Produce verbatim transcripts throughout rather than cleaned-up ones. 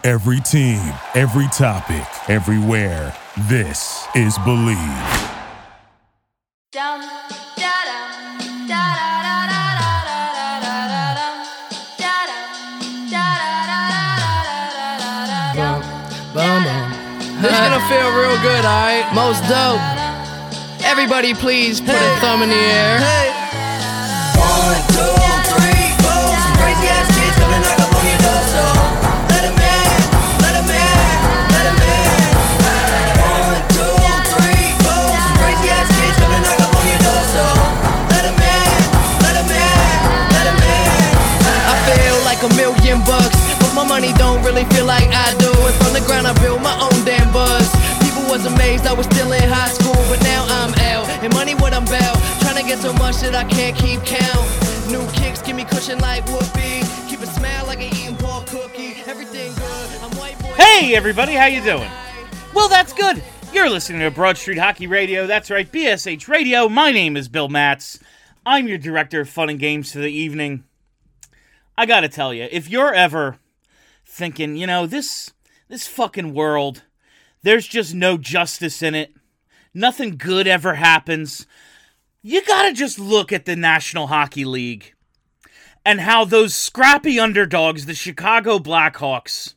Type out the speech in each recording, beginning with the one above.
Every team, every topic, everywhere. This is Believe. Down, da da da da da da da da da da da. This is gonna feel real good, alright? Most dope. Everybody please put a thumb in the air. One, two, three, four. Some crazy ass kids coming knock up on your door, so let 'em in, let 'em in, let 'em in. One, two, three, four. Some crazy ass kids coming knock up on your door, so let 'em in, let 'em in, let 'em in. I feel like a million bucks, but my money don't really feel like I do. And from the ground I built my own damn buzz. People was amazed I was still in high school, but now I'm out. And money what I'm about, trying to get so much that I can't keep count. New kicks give me cushion like whoopee. Keep it smile like an eating Paul cookie. Everything good, I'm white boy. Hey everybody, how you doing? Well, that's good. You're listening to Broad Street Hockey Radio. That's right, B S H Radio. My name is Bill Matz. I'm your director of fun and games for the evening. I gotta tell you, if you're ever thinking, you know, this this fucking world, there's just no justice in it, nothing good ever happens, you gotta just look at the National Hockey League and how those scrappy underdogs, the Chicago Blackhawks,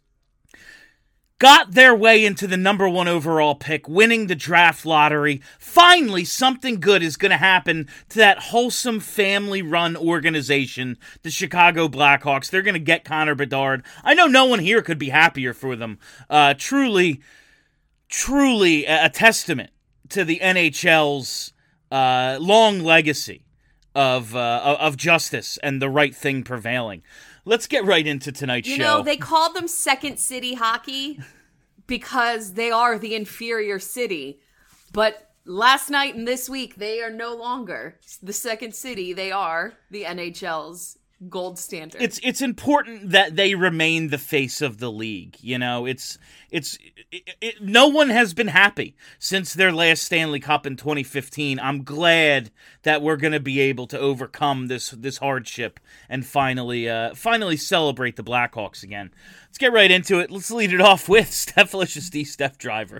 got their way into the number one overall pick, winning the draft lottery. Finally, something good is going to happen to that wholesome family-run organization, the Chicago Blackhawks. They're going to get Connor Bedard. I know no one here could be happier for them. Uh, truly, truly a, a testament to the N H L's uh, long legacy of uh, of justice and the right thing prevailing. Let's get right into tonight's you show. You know, they call them Second City Hockey because they are the inferior city. But last night and this week, they are no longer the Second City. They are the N H L's gold standard. It's it's important that they remain the face of the league. You know, it's it's it, it, no one has been happy since their last Stanley Cup in twenty fifteen. I'm glad that we're going to be able to overcome this this hardship and finally uh, finally celebrate the Blackhawks again. Let's get right into it. Let's lead it off with Stephalicious D, Steph Driver.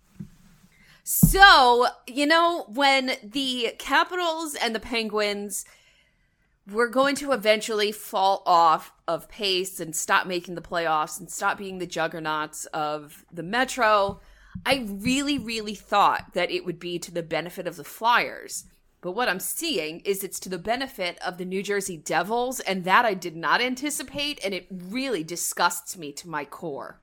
So, you know, when the Capitals and the Penguins we're going to eventually fall off of pace and stop making the playoffs and stop being the juggernauts of the Metro. I really, really thought that it would be to the benefit of the Flyers. But what I'm seeing is it's to the benefit of the New Jersey Devils, and that I did not anticipate, and it really disgusts me to my core.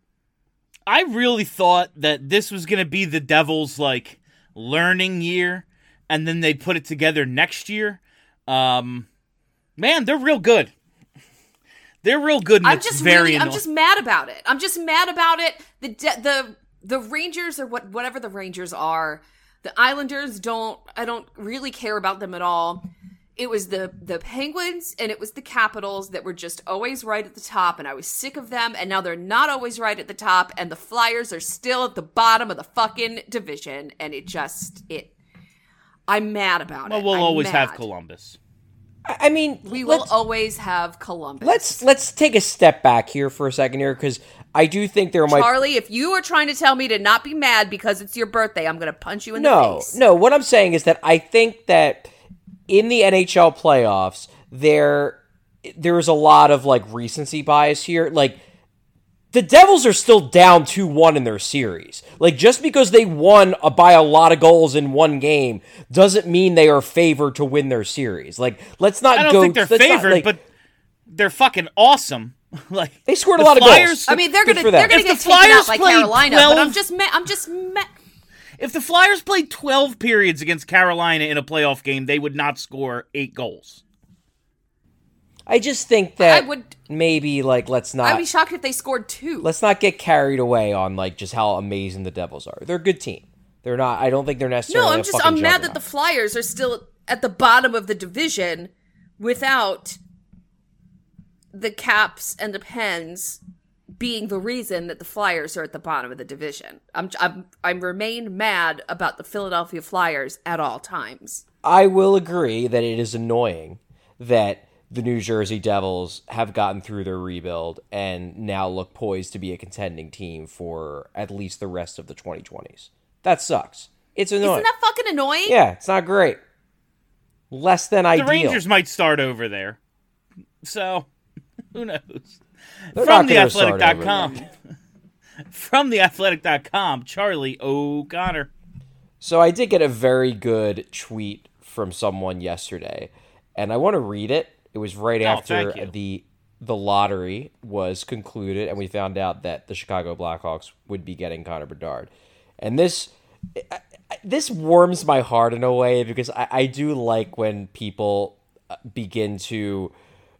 I really thought that this was going to be the Devils' like learning year, and then they'd put it together next year. Um... Man, they're real good. They're real good. And I'm it's just very really, annoying. I'm just mad about it. I'm just mad about it. The de- the the Rangers or what whatever the Rangers are, the Islanders don't. I don't really care about them at all. It was the the Penguins and it was the Capitals that were just always right at the top, and I was sick of them. And now they're not always right at the top, and the Flyers are still at the bottom of the fucking division. And it just it. I'm mad about well, it. Well, we'll I'm always mad. have Columbus. I mean, we will always have Columbus. Let's let's take a step back here for a second here, because I do think there might. Charlie, if you are trying to tell me to not be mad because it's your birthday, I'm going to punch you in no, the face. No, no. What I'm saying is that I think that in the N H L playoffs, there there is a lot of like recency bias here. Like the Devils are still down two one in their series. Like, just because they won a, by a lot of goals in one game doesn't mean they are favored to win their series. Like, let's not go... I don't go, think they're favored, not, like, but they're fucking awesome. Like they scored the a lot Flyers, of goals. I mean, they're Good gonna for them. they're gonna If get the taken Flyers out by played Carolina, twelve but I'm just ma- I'm just ma- If the Flyers played twelve periods against Carolina in a playoff game, they would not score eight goals. I just think that I would, maybe, like, let's not... I'd be shocked if they scored two. Let's not get carried away on, like, just how amazing the Devils are. They're a good team. They're not... I don't think they're necessarily No, I'm a just... fucking I'm mad that juggernaut. the Flyers are still at the bottom of the division without the Caps and the Pens being the reason that the Flyers are at the bottom of the division. I'm... I'm... I remain mad about the Philadelphia Flyers at all times. I will agree that it is annoying that the New Jersey Devils have gotten through their rebuild and now look poised to be a contending team for at least the rest of the twenty twenties. That sucks. It's annoying. Isn't that fucking annoying? Yeah, it's not great. Less than ideal. The Rangers might start over there. So, who knows? They're From not the gonna athletic start dot over com. From the athletic dot com, Charlie O'Connor. So I did get a very good tweet from someone yesterday, and I want to read it. It was right Oh, after thank you. the the lottery was concluded, and we found out that the Chicago Blackhawks would be getting Connor Bedard. And this I- I- this warms my heart in a way, because I, I do like when people begin to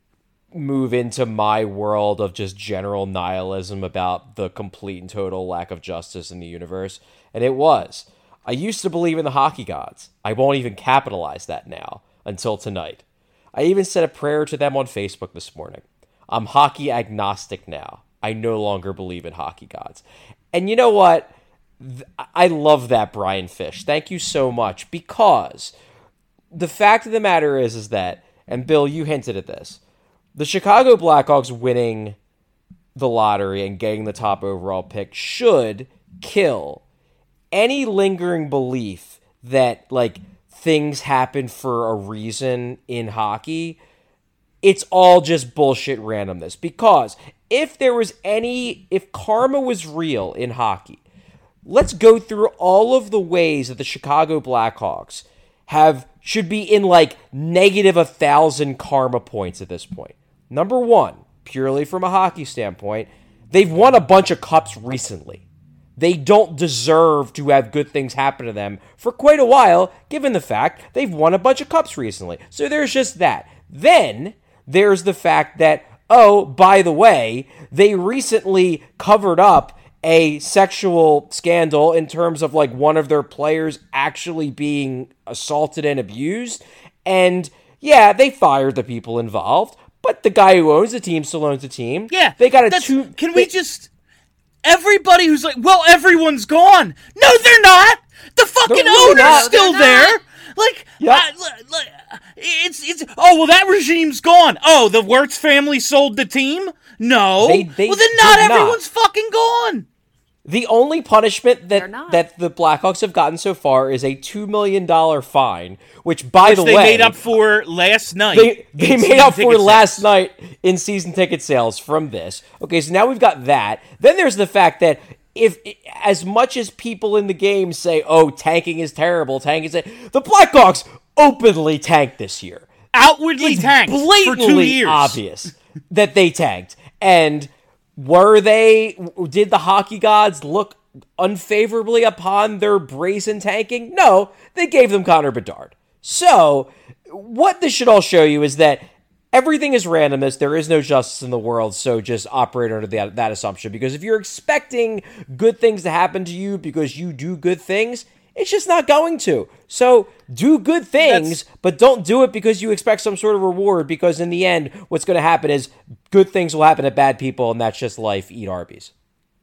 move into my world of just general nihilism about the complete and total lack of justice in the universe. And it was. I used to believe in the hockey gods. I won't even capitalize that now until tonight. I even said a prayer to them on Facebook this morning. I'm hockey agnostic now. I no longer believe in hockey gods. And you know what? Th- I love that, Brian Fish. Thank you so much, because the fact of the matter is, is that, and Bill, you hinted at this, the Chicago Blackhawks winning the lottery and getting the top overall pick should kill any lingering belief that, like, things happen for a reason in hockey. It's all just bullshit randomness. Because if there was any, if karma was real in hockey, let's go through all of the ways that the Chicago Blackhawks have, should be in, like, negative a thousand karma points at this point. Number one, purely from a hockey standpoint, they've won a bunch of cups recently. They don't deserve to have good things happen to them for quite a while, given the fact they've won a bunch of cups recently. So there's just that. Then there's the fact that, oh, by the way, they recently covered up a sexual scandal in terms of, like, one of their players actually being assaulted and abused. And yeah, they fired the people involved, but the guy who owns the team still owns the team. Yeah, they got a that's- two. Can they- we just... Everybody who's like, well, everyone's gone. No, they're not. The fucking They're really owner's not. still They're there. not. Like, Yep. I- li- li- it's it's. Oh well, that regime's gone. Oh, the Wirtz family sold the team. No, They- they well then not did not. everyone's fucking gone. The only punishment They're that not. that the Blackhawks have gotten so far is a two million dollar fine, which, by Which the they way, made up for last night. They, they in made season up for ticket last sales. night in season ticket sales from this. Okay, so now we've got that. Then there's the fact that if, as much as people in the game say, oh, tanking is terrible, tanking is... The Blackhawks openly tanked this year. Outwardly It's tanked for two blatantly years. obvious that they tanked. And were they... Did the hockey gods look unfavorably upon their brazen tanking? No, they gave them Connor Bedard. So, what this should all show you is that everything is randomness. There is no justice in the world, so just operate under that, that assumption. Because if you're expecting good things to happen to you because you do good things, it's just not going to. So do good things, That's- but don't do it because you expect some sort of reward, because in the end, what's going to happen is good things will happen to bad people, and that's just life. Eat Arby's.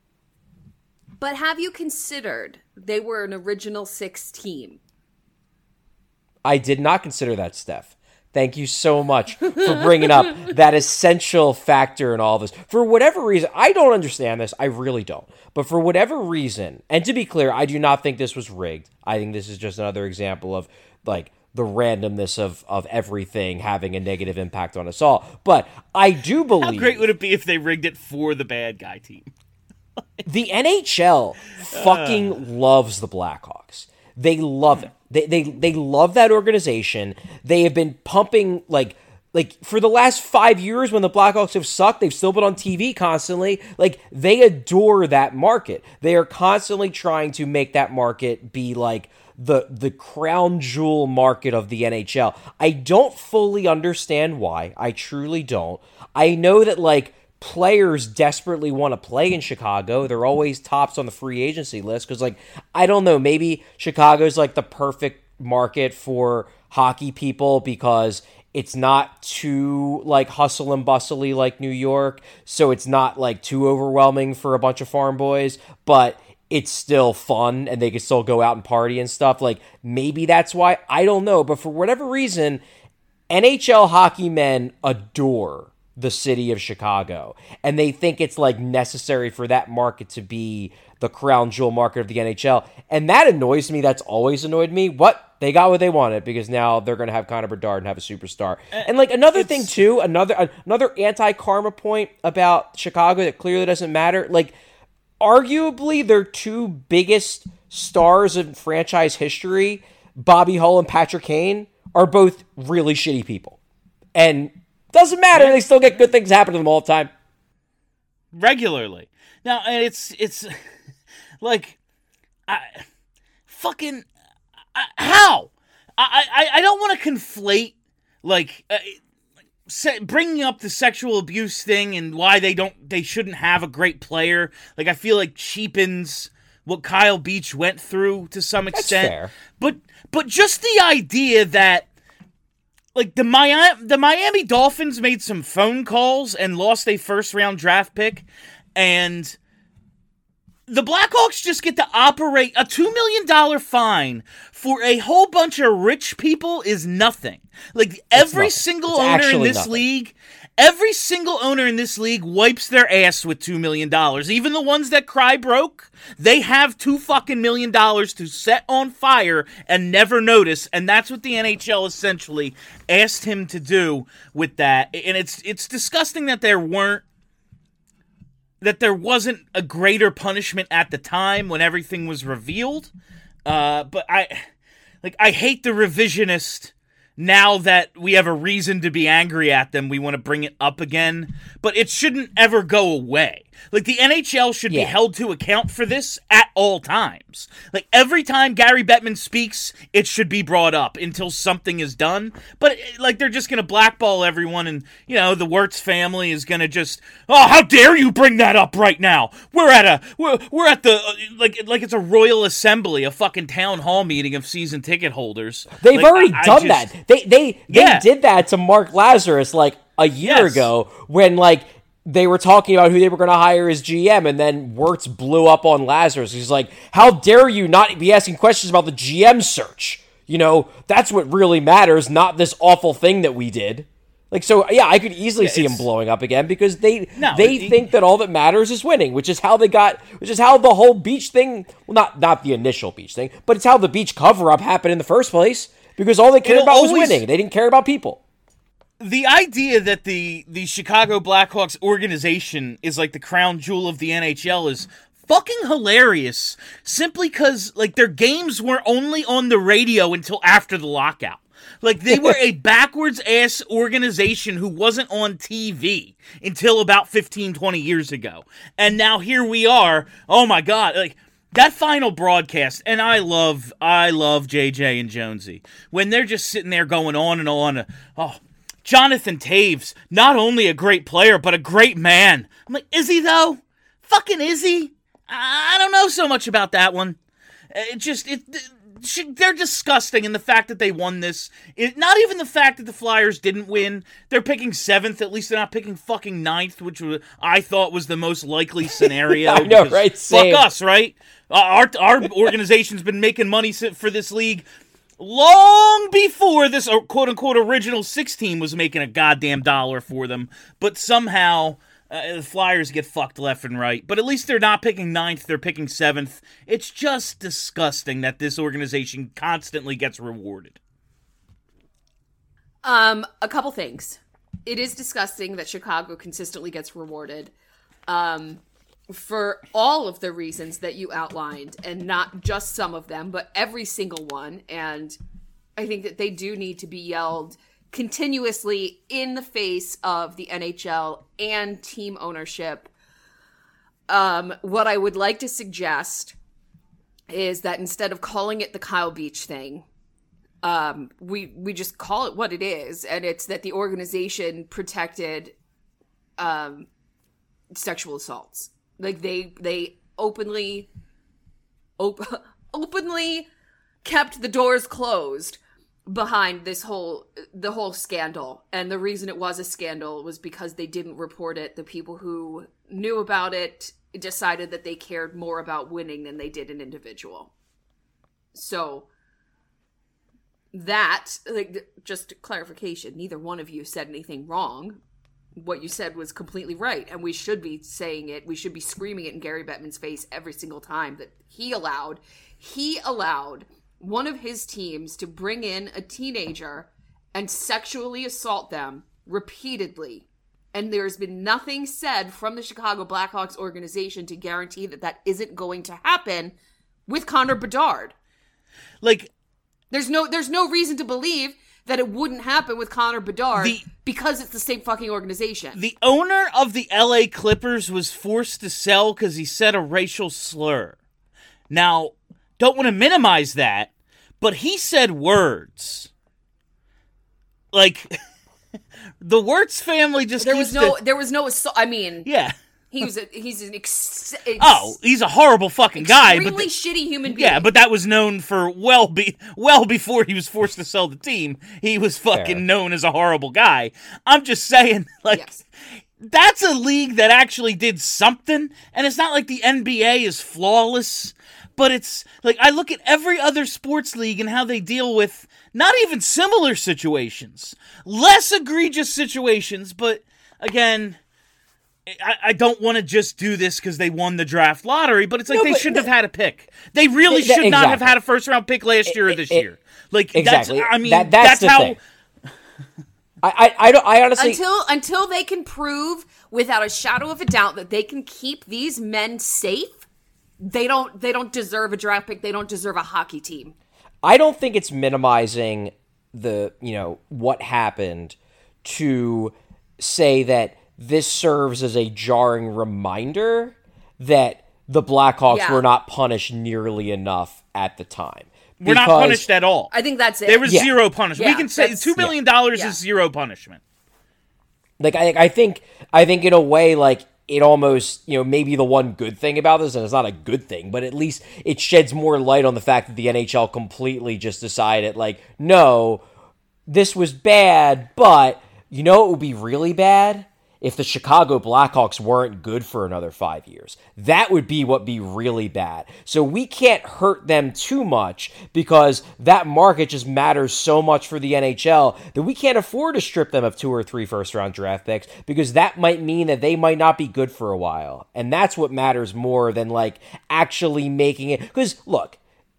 But have you considered they were an original six team? I did not consider that, Steph. Thank you so much for bringing up that essential factor in all of this. For whatever reason, I don't understand this. I really don't. But for whatever reason, and to be clear, I do not think this was rigged. I think this is just another example of, like, the randomness of, of everything having a negative impact on us all. But I do believe... How great would it be if they rigged it for the bad guy team? The N H L fucking loves the Blackhawks. They love it. They, they they love that organization. They have been pumping, like like for the last five years when the Blackhawks have sucked, they've still been on T V constantly. Like, they adore that market. They are constantly trying to make that market be like the the crown jewel market of the N H L. I don't fully understand why. I truly don't. I know that, like, players desperately want to play in Chicago. They're always tops on the free agency list because, like, I don't know, maybe Chicago's like the perfect market for hockey people because it's not too, like, hustle and bustly like New York, so it's not, like, too overwhelming for a bunch of farm boys, but it's still fun and they can still go out and party and stuff. Like, maybe that's why. I don't know, but for whatever reason, N H L hockey men adore the city of Chicago, and they think it's like necessary for that market to be the crown jewel market of the N H L, and that annoys me. That's always annoyed me. What? They got what they wanted, because now they're going to have Connor Bedard and have a superstar. And like another it's... thing too, another another anti-karma point about Chicago that clearly doesn't matter. Like, arguably their two biggest stars in franchise history, Bobby Hull and Patrick Kane, are both really shitty people, and doesn't matter. They still get good things happen to them all the time, regularly. Now, and it's it's like, I fucking I, how I, I I don't want to conflate like uh, se- bringing up the sexual abuse thing and why they don't they shouldn't have a great player. Like, I feel like cheapens what Kyle Beach went through to some extent. That's fair. But but just the idea that, like, the Miami, the Miami Dolphins made some phone calls and lost a first-round draft pick, and the Blackhawks just get to operate. A two million dollars fine for a whole bunch of rich people is nothing. Like, every nothing. single It's owner in this nothing. league, every single owner in this league wipes their ass with two million dollars. Even the ones that cry broke, they have two fucking million dollars to set on fire and never notice, and that's what the N H L essentially asked him to do with that. And it's it's disgusting that there weren't that there wasn't a greater punishment at the time when everything was revealed. Uh, but I like I hate the revisionist. Now that we have a reason to be angry at them, we want to bring it up again. But it shouldn't ever go away. Like, the N H L should Yeah. be held to account for this at all times. Like, every time Gary Bettman speaks, it should be brought up until something is done. But, like, they're just going to blackball everyone, and, you know, the Wirtz family is going to just, oh, how dare you bring that up right now? We're at a, we're, we're at the, uh, like, like it's a royal assembly, a fucking town hall meeting of season ticket holders. They've Like, already I- I done just- that. They they they Yeah. did that to Mark Lazarus like a year Yes. ago, when like they were talking about who they were going to hire as G M, and then Wirtz blew up on Lazarus. He's like, "How dare you not be asking questions about the G M search? You know, that's what really matters, not this awful thing that we did." Like, so yeah, I could easily Yeah, see him it's- blowing up again, because they No, they it- think that all that matters is winning, which is how they got, which is how the whole beach thing, well, not not the initial beach thing, but it's how the beach cover up happened in the first place. Because all they cared It'll about was always- winning. They didn't care about people. The idea that the, the Chicago Blackhawks organization is like the crown jewel of the N H L is fucking hilarious. Simply because, like, their games were only on the radio until after the lockout. Like, they were a backwards-ass organization who wasn't on T V until about fifteen, twenty years ago. And now here we are. Oh, my God. Like, that final broadcast, and I love, I love J J and Jonesy, when they're just sitting there going on and on. Oh, Jonathan Taves, not only a great player, but a great man. I'm like, is he though? Fucking is he? I don't know so much about that one. It just, it, they're disgusting, and the fact that they won this, it, not even the fact that the Flyers didn't win. They're picking seventh. At least they're not picking fucking ninth, which was, I thought was the most likely scenario. I know, because right? Fuck Same. us, right? Uh, our our organization's been making money for this league long before this uh, quote-unquote original six team was making a goddamn dollar for them. But somehow uh, the Flyers get fucked left and right. But at least they're not picking ninth, they're picking seventh. It's just disgusting that this organization constantly gets rewarded. Um, a couple things. It is disgusting that Chicago consistently gets rewarded. Um, for all of the reasons that you outlined, and not just some of them, but every single one. And I think that they do need to be yelled continuously in the face of the N H L and team ownership. Um, what I would like to suggest is that instead of calling it the Kyle Beach thing, um, we, we just call it what it is. And it's that the organization protected, um, sexual assaults. Like, they they openly op- openly kept the doors closed behind this whole the whole scandal. And the reason it was a scandal was because they didn't report it. The people who knew about it decided that they cared more about winning than they did an individual. So that, like, just clarification, neither one of you said anything wrong. What you said was completely right, and we should be saying it. We should be screaming it in Gary Bettman's face every single time that he allowed, he allowed one of his teams to bring in a teenager and sexually assault them repeatedly. And there's been nothing said from the Chicago Blackhawks organization to guarantee that that isn't going to happen with Connor Bedard. Like, there's no there's no reason to believe that it wouldn't happen with Connor Bedard the, because it's the same fucking organization. The owner of the L A Clippers was forced to sell because he said a racial slur. Now, don't want to minimize that, but he said words. Like, the Wirtz family just there was keeps no the, there was no assault. I mean, yeah. He was a, he's an ex, ex, oh, he's a horrible fucking guy. Extremely but shitty human being. Yeah, but that was known for well be well before he was forced to sell the team. He was fucking Fair. known as a horrible guy. I'm just saying, like, yes. That's a league that actually did something, and it's not like the N B A is flawless, but it's like I look at every other sports league and how they deal with not even similar situations, less egregious situations, but again, I, I don't want to just do this because they won the draft lottery, but it's like No, they but shouldn't the- have had a pick. They really Th- should not have exactly. had a first round pick last year or this it- year. Like Exactly. that's I mean That- that's that's, the how thing. I, I, I, don't, I honestly... Until until they can prove without a shadow of a doubt that they can keep these men safe, they don't they don't deserve a draft pick. They don't deserve a hockey team. I don't think it's minimizing the, you know, what happened to say that this serves as a jarring reminder that the Blackhawks Yeah. were not punished nearly enough at the time. we're not Because- punished at all. I think that's it. There was Yeah. zero punishment. Yeah, we can say that's- two million dollars Yeah. is zero punishment. Like, I, I think, I think in a way, like, it almost, you know, maybe the one good thing about this, and it's not a good thing, but at least it sheds more light on the fact that the N H L completely just decided, like, no, this was bad, but you know it would be really bad? If the Chicago Blackhawks weren't good for another five years. That would be what be really bad. So we can't hurt them too much because that market just matters so much for the N H L that we can't afford to strip them of two or three first-round draft picks because that might mean that they might not be good for a while. And that's what matters more than, like, actually making it... Because, look,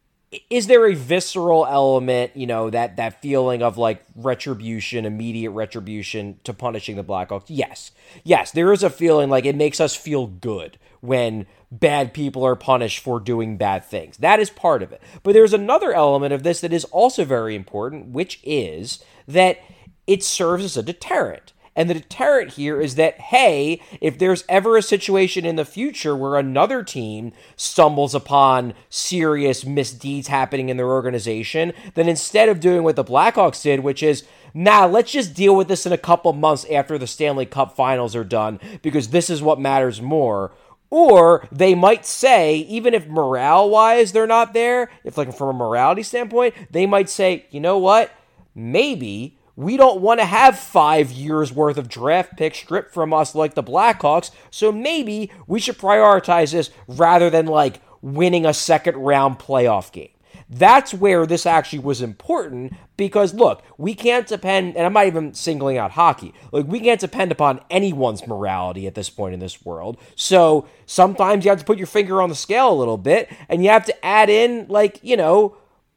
is there a visceral element, you know, that, that feeling of, like, retribution, immediate retribution to punishing the Blackhawks? Yes. Yes, there is a feeling like it makes us feel good when bad people are punished for doing bad things. That is part of it. But there's another element of this that is also very important, which is that it serves as a deterrent. And the deterrent here is that, hey, if there's ever a situation in the future where another team stumbles upon serious misdeeds happening in their organization, then instead of doing what the Blackhawks did, which is, nah, let's just deal with this in a couple months after the Stanley Cup finals are done, because this is what matters more. Or they might say, even if morale-wise they're not there, if like from a morality standpoint, they might say, you know what, maybe... we don't want to have five years worth of draft picks stripped from us like the Blackhawks, so maybe we should prioritize this rather than, like, winning a second round playoff game. That's where this actually was important because, look, we can't depend, and I'm not even singling out hockey, like, we can't depend upon anyone's morality at this point in this world. So sometimes you have to put your finger on the scale a little bit, and you have to add in, like, you know,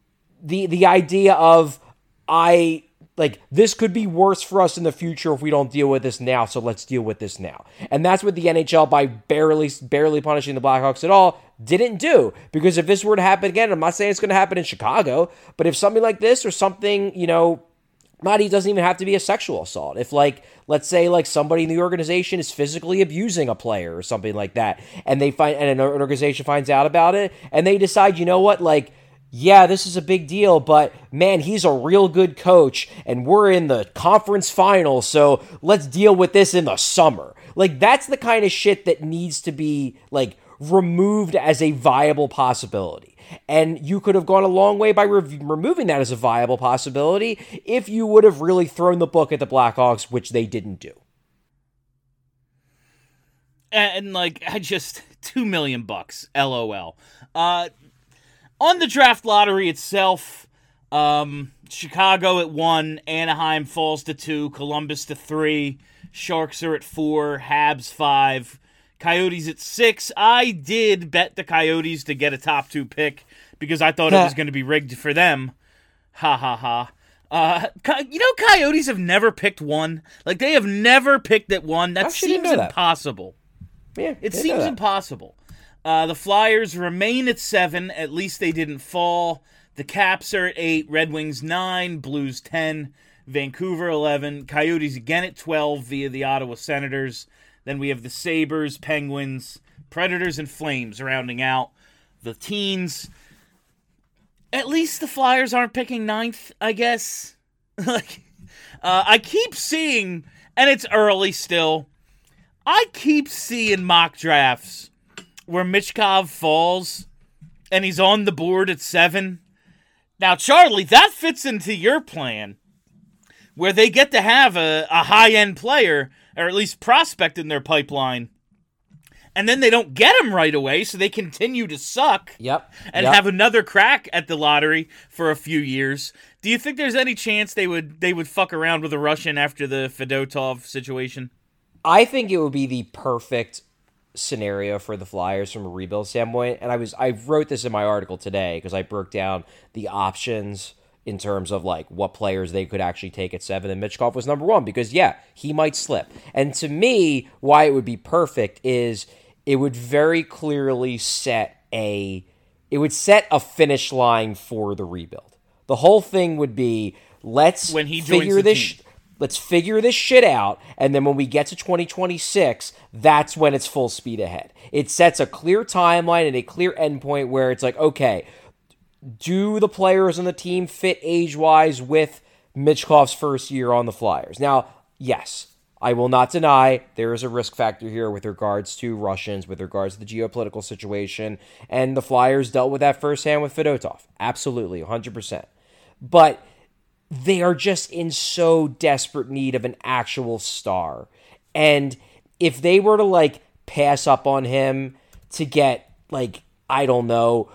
the the idea of, I... like, this could be worse for us in the future if we don't deal with this now, so let's deal with this now. And that's what the N H L, by barely barely punishing the Blackhawks at all, didn't do. Because if this were to happen again, I'm not saying it's going to happen in Chicago, but if something like this or something, you know, not, it doesn't even have to be a sexual assault. If, like, let's say, like, somebody in the organization is physically abusing a player or something like that, and they find, and an organization finds out about it, and they decide, you know what, like, yeah, this is a big deal, but man, he's a real good coach, and we're in the conference finals, so let's deal with this in the summer. Like, that's the kind of shit that needs to be, like, removed as a viable possibility. And you could have gone a long way by re- removing that as a viable possibility if you would have really thrown the book at the Blackhawks, which they didn't do. And, like, I just, two million bucks, LOL. Uh... On the draft lottery itself, Um, Chicago at one, Anaheim falls to two, Columbus to three, Sharks are at four, Habs five, Coyotes at six. I did bet the Coyotes to get a top two pick because I thought it was going to be rigged for them. Ha ha ha. Uh, you know, Coyotes have never picked one. Like, they have never picked at one. That Actually, didn't seems know that. impossible. Yeah, It didn't know seems that. impossible. Uh, the Flyers remain at seven. At least they didn't fall. The Caps are at eight. Red Wings nine. Blues ten. Vancouver eleven. Coyotes again at twelve via the Ottawa Senators. Then we have the Sabres, Penguins, Predators, and Flames rounding out the teens. At least the Flyers aren't picking ninth, I guess. like, uh, I keep seeing, and it's early still, I keep seeing mock drafts where Michkov falls and he's on the board at seven. Now, Charlie, that fits into your plan where they get to have a, a high-end player, or at least prospect in their pipeline, and then they don't get him right away, so they continue to suck Yep. and yep. have another crack at the lottery for a few years. Do you think there's any chance they would they would fuck around with a Russian after the Fedotov situation? I think it would be the perfect scenario for the Flyers from a rebuild standpoint. And I was I wrote this in my article today because I broke down the options in terms of like what players they could actually take at seven. And Michkov was number one because, yeah, he might slip. And to me, why it would be perfect is it would very clearly set a it would set a finish line for the rebuild. The whole thing would be let's When he joins figure the this team. let's figure this shit out, and then when we get to twenty twenty-six, that's when it's full speed ahead. It sets a clear timeline and a clear endpoint where it's like, okay, do the players on the team fit age-wise with Michkov's first year on the Flyers? Now, yes, I will not deny there is a risk factor here with regards to Russians, with regards to the geopolitical situation, and the Flyers dealt with that firsthand with Fedotov. Absolutely, one hundred percent. But they are just in so desperate need of an actual star. And if they were to, like, pass up on him to get, like, I don't know,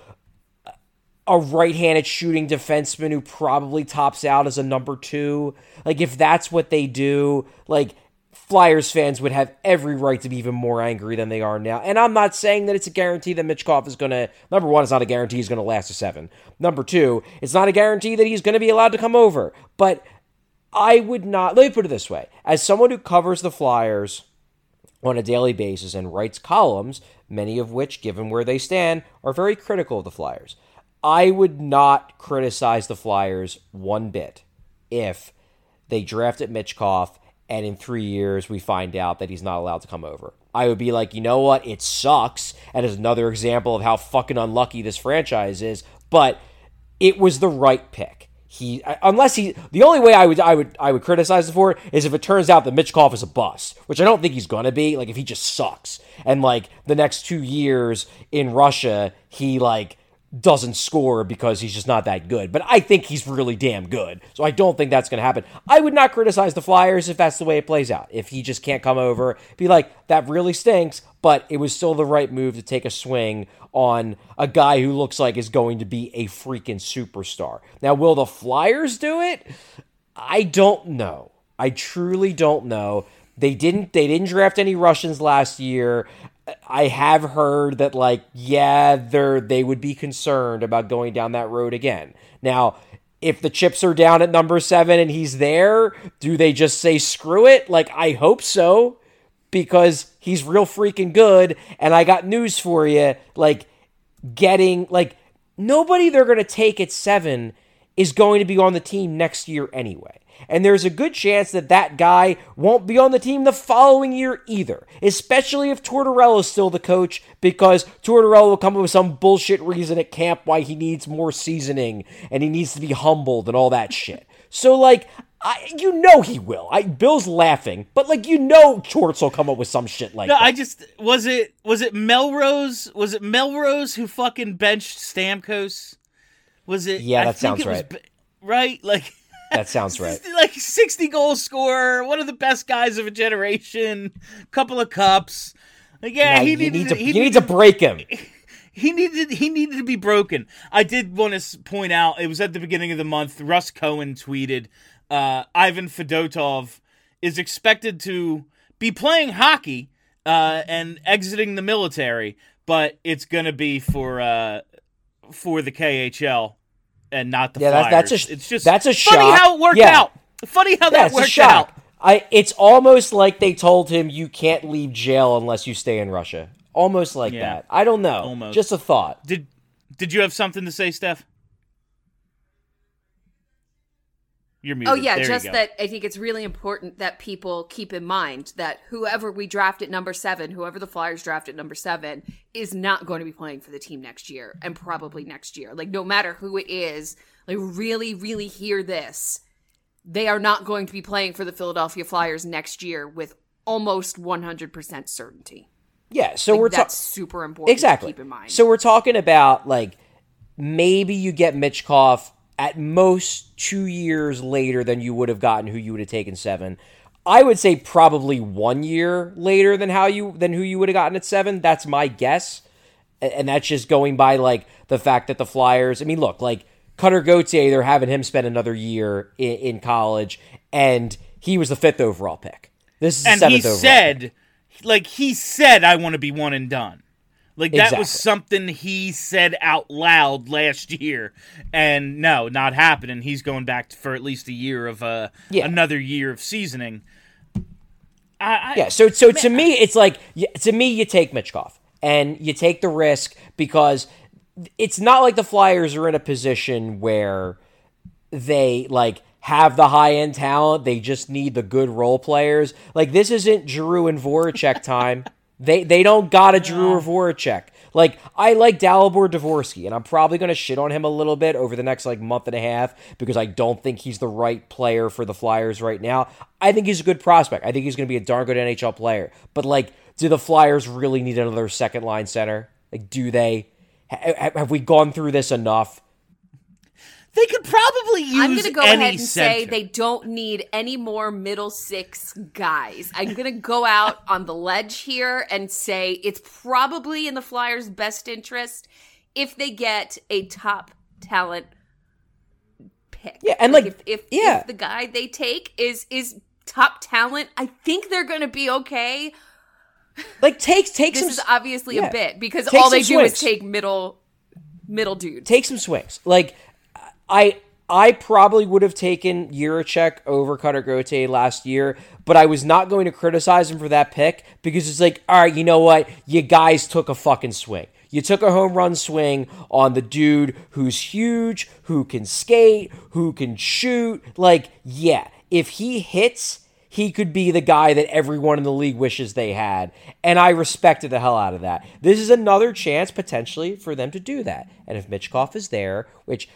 a right-handed shooting defenseman who probably tops out as a number two, like, if that's what they do, like, Flyers fans would have every right to be even more angry than they are now. And I'm not saying that it's a guarantee that Michkov is going to... Number one, it's not a guarantee he's going to last a seven. Number two, it's not a guarantee that he's going to be allowed to come over. But I would not... Let me put it this way. As someone who covers the Flyers on a daily basis and writes columns, many of which, given where they stand, are very critical of the Flyers, I would not criticize the Flyers one bit if they drafted Michkov and in three years we find out that he's not allowed to come over. I would be like, you know what? It sucks. And is another example of how fucking unlucky this franchise is. But it was the right pick. He, unless he, the only way I would, I would, I would criticize him for it is if it turns out that Michkov is a bust, which I don't think he's gonna be. Like if he just sucks, and like the next two years in Russia, he like doesn't score because he's just not that good. But I think he's really damn good. So I don't think that's going to happen. I would not criticize the Flyers if that's the way it plays out. If he just can't come over, be like, that really stinks, but it was still the right move to take a swing on a guy who looks like is going to be a freaking superstar. Now, will the Flyers do it? I don't know. I truly don't know. They didn't they didn't draft any Russians last year. I have heard that, like, yeah, they're, they would be concerned about going down that road again. Now, if the chips are down at number seven and he's there, do they just say screw it? Like, I hope so, because he's real freaking good, and I got news for you. Like, getting, like, nobody they're going to take at seven is going to be on the team next year anyway. And there's a good chance that that guy won't be on the team the following year either, especially if Tortorella's still the coach, because Tortorella will come up with some bullshit reason at camp why he needs more seasoning and he needs to be humbled and all that shit. So, like, I, you know he will. I, Bill's laughing, but, like, you know Torts will come up with some shit like no, that. I just... Was it was it Melrose? Was it Melrose who fucking benched Stamkos? Was it... Yeah, that I think sounds it was right. Be- right? Like... That sounds right. Like sixty goal scorer, one of the best guys of a generation, couple of cups. Like, yeah, Now, he you needs need to, he you need to break him. He needed he needed to be broken. I did want to point out, it was at the beginning of the month, Russ Cohen tweeted, uh, Ivan Fedotov is expected to be playing hockey uh, and exiting the military, but it's going to be for uh, for the K H L and not the yeah, Flyers. That's, that's a, it's just that's a funny shock. how it worked yeah. out. Funny how yeah, that it's worked a shock. out. I, it's almost like they told him you can't leave jail unless you stay in Russia. Almost like Yeah. that. I don't know. Almost. Just a thought. Did Did you have something to say, Steph? You're muted. Oh, yeah, There just you go. that I think it's really important that people keep in mind that whoever we draft at number seven, whoever the Flyers draft at number seven, is not going to be playing for the team next year and probably next year. Like, no matter who it is, like, really, really hear this. They are not going to be playing for the Philadelphia Flyers next year with almost one hundred percent certainty. Yeah, so Like, we're that's talking super important exactly. to keep in mind. So we're talking about like maybe you get Michkov at most two years later than you would have gotten who you would have taken seven. I would say probably one year later than how you than who you would have gotten at seven. That's my guess, and that's just going by like the fact that the Flyers. I mean, look, like Cutter Gauthier, they're having him spend another year in, in college, and he was the fifth overall pick. This is the and seventh he overall said, pick. like he said, I want to be one and done. Like that Exactly. was something he said out loud last year, and no, not happening. He's going back for at least a year of uh, Yeah. another year of seasoning. I, I, Yeah, so so to me, it's like y- to me, you take Michkov and you take the risk because it's not like the Flyers are in a position where they like have the high end talent. They just need the good role players. Like this isn't Giroux and Voracek time. they they don't got a Giroux or Voracek. Like I like Dalibor Dvorsky, and I'm probably going to shit on him a little bit over the next like month and a half because I don't think he's the right player for the Flyers right now. I think he's a good prospect. I think he's going to be a darn good N H L player. But like, do the Flyers really need another second line center? Like, do they? Ha- have we gone through this enough? They could probably use I'm going to go any ahead and say center. they don't need any more middle six guys. I'm going to go out on the ledge here and say it's probably in the Flyers' best interest if they get a top talent pick. Yeah, and like, if, if, yeah. if the guy they take is is top talent, I think they're going to be okay. Like, take take This some is obviously yeah. a bit because Take all they some do is swings. take middle middle dudes. take some swings. Like, I I probably would have taken Jiricek over Cutter Gauthier last year, but I was not going to criticize him for that pick because it's like, all right, you know what? You guys took a fucking swing. You took a home run swing on the dude who's huge, who can skate, who can shoot. Like, yeah, if he hits, he could be the guy that everyone in the league wishes they had. And I respected the hell out of that. This is another chance, potentially, for them to do that. And if Michkov is there, which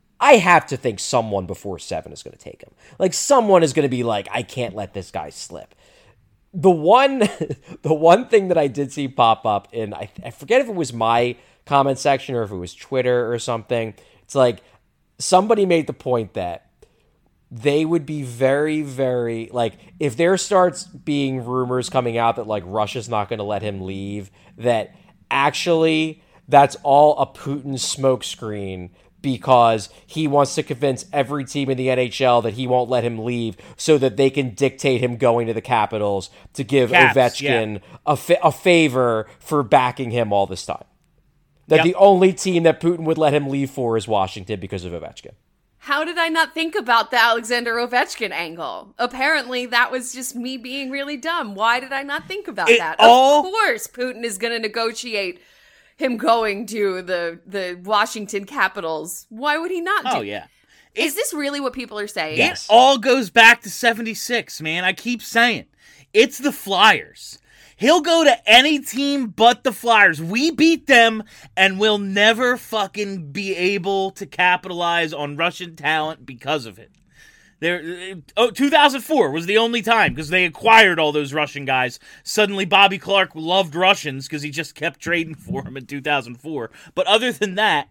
I have to think someone before seven is going to take him. Like, someone is going to be like, I can't let this guy slip. The one the one thing that I did see pop up in, I, I forget if it was my comment section or if it was Twitter or something. It's like, somebody made the point that they would be very, very, like, if there starts being rumors coming out that, like, Russia's not going to let him leave, that actually that's all a Putin smokescreen because he wants to convince every team in the N H L that he won't let him leave so that they can dictate him going to the Capitals to give Caps, Ovechkin yeah. a, fa- a favor for backing him all this time. That Yep. the only team that Putin would let him leave for is Washington because of Ovechkin. How did I not think about the Alexander Ovechkin angle? Apparently, that was just me being really dumb. Why did I not think about It that? all- Of course, Putin is going to negotiate him going to the the Washington Capitals. Why would he not do? Oh yeah. Is this really what people are saying? Yes. It all goes back to seventy-six, man. I keep saying. It's the Flyers. He'll go to any team but the Flyers. We beat them, and we'll never fucking be able to capitalize on Russian talent because of it. There, oh, two thousand four was the only time because they acquired all those Russian guys. Suddenly, Bobby Clark loved Russians because he just kept trading for them in two thousand four. But other than that,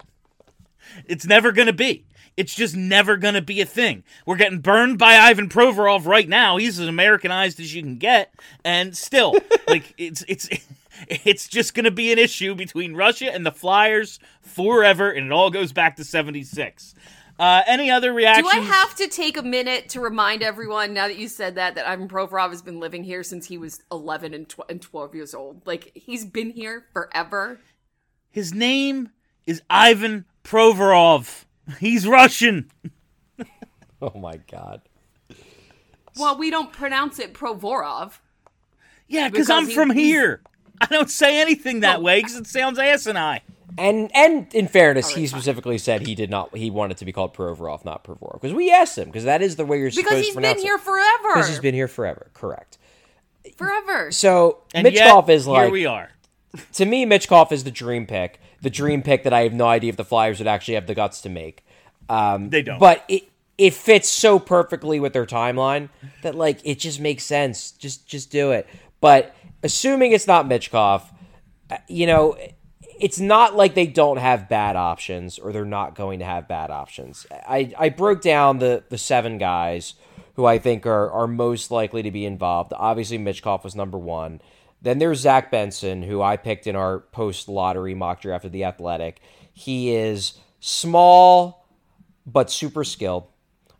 it's never going to be. It's just never going to be a thing. We're getting burned by Ivan Provorov right now. He's as Americanized as you can get. And still, like, it's, it's, It's just going to be an issue between Russia and the Flyers forever, and it all goes back to seventy-six. Uh, any other reactions? Do I have to take a minute to remind everyone, now that you said that, that Ivan Provorov has been living here since he was eleven and, tw- and twelve years old? Like, he's been here forever. His name is Ivan Provorov. He's Russian. Oh my god. Well, we don't pronounce it Provorov. Yeah, because Because I'm he- from he's- here. I don't say anything that Oh. way because it sounds asinine. And and in fairness, All right, he fine. specifically said he did not. He wanted to be called Provorov, not Provorov, because we asked him because that is the way you're Because supposed he's to pronounce been it. here forever. Because he's been here forever. Correct. Forever. So And Mitchkov yet, is like here we are. to me. Mitchkov is the dream pick. The dream pick that I have no idea if the Flyers would actually have the guts to make. Um, They don't. But it it fits so perfectly with their timeline that like it just makes sense. Just just do it. But assuming it's not Mitchkov, uh, you know. It's not like they don't have bad options or they're not going to have bad options. I, I broke down the, the seven guys who I think are, are most likely to be involved. Obviously, Mitchkov was number one. Then there's Zach Benson, who I picked in our post-lottery mock draft of The Athletic. He is small but super skilled.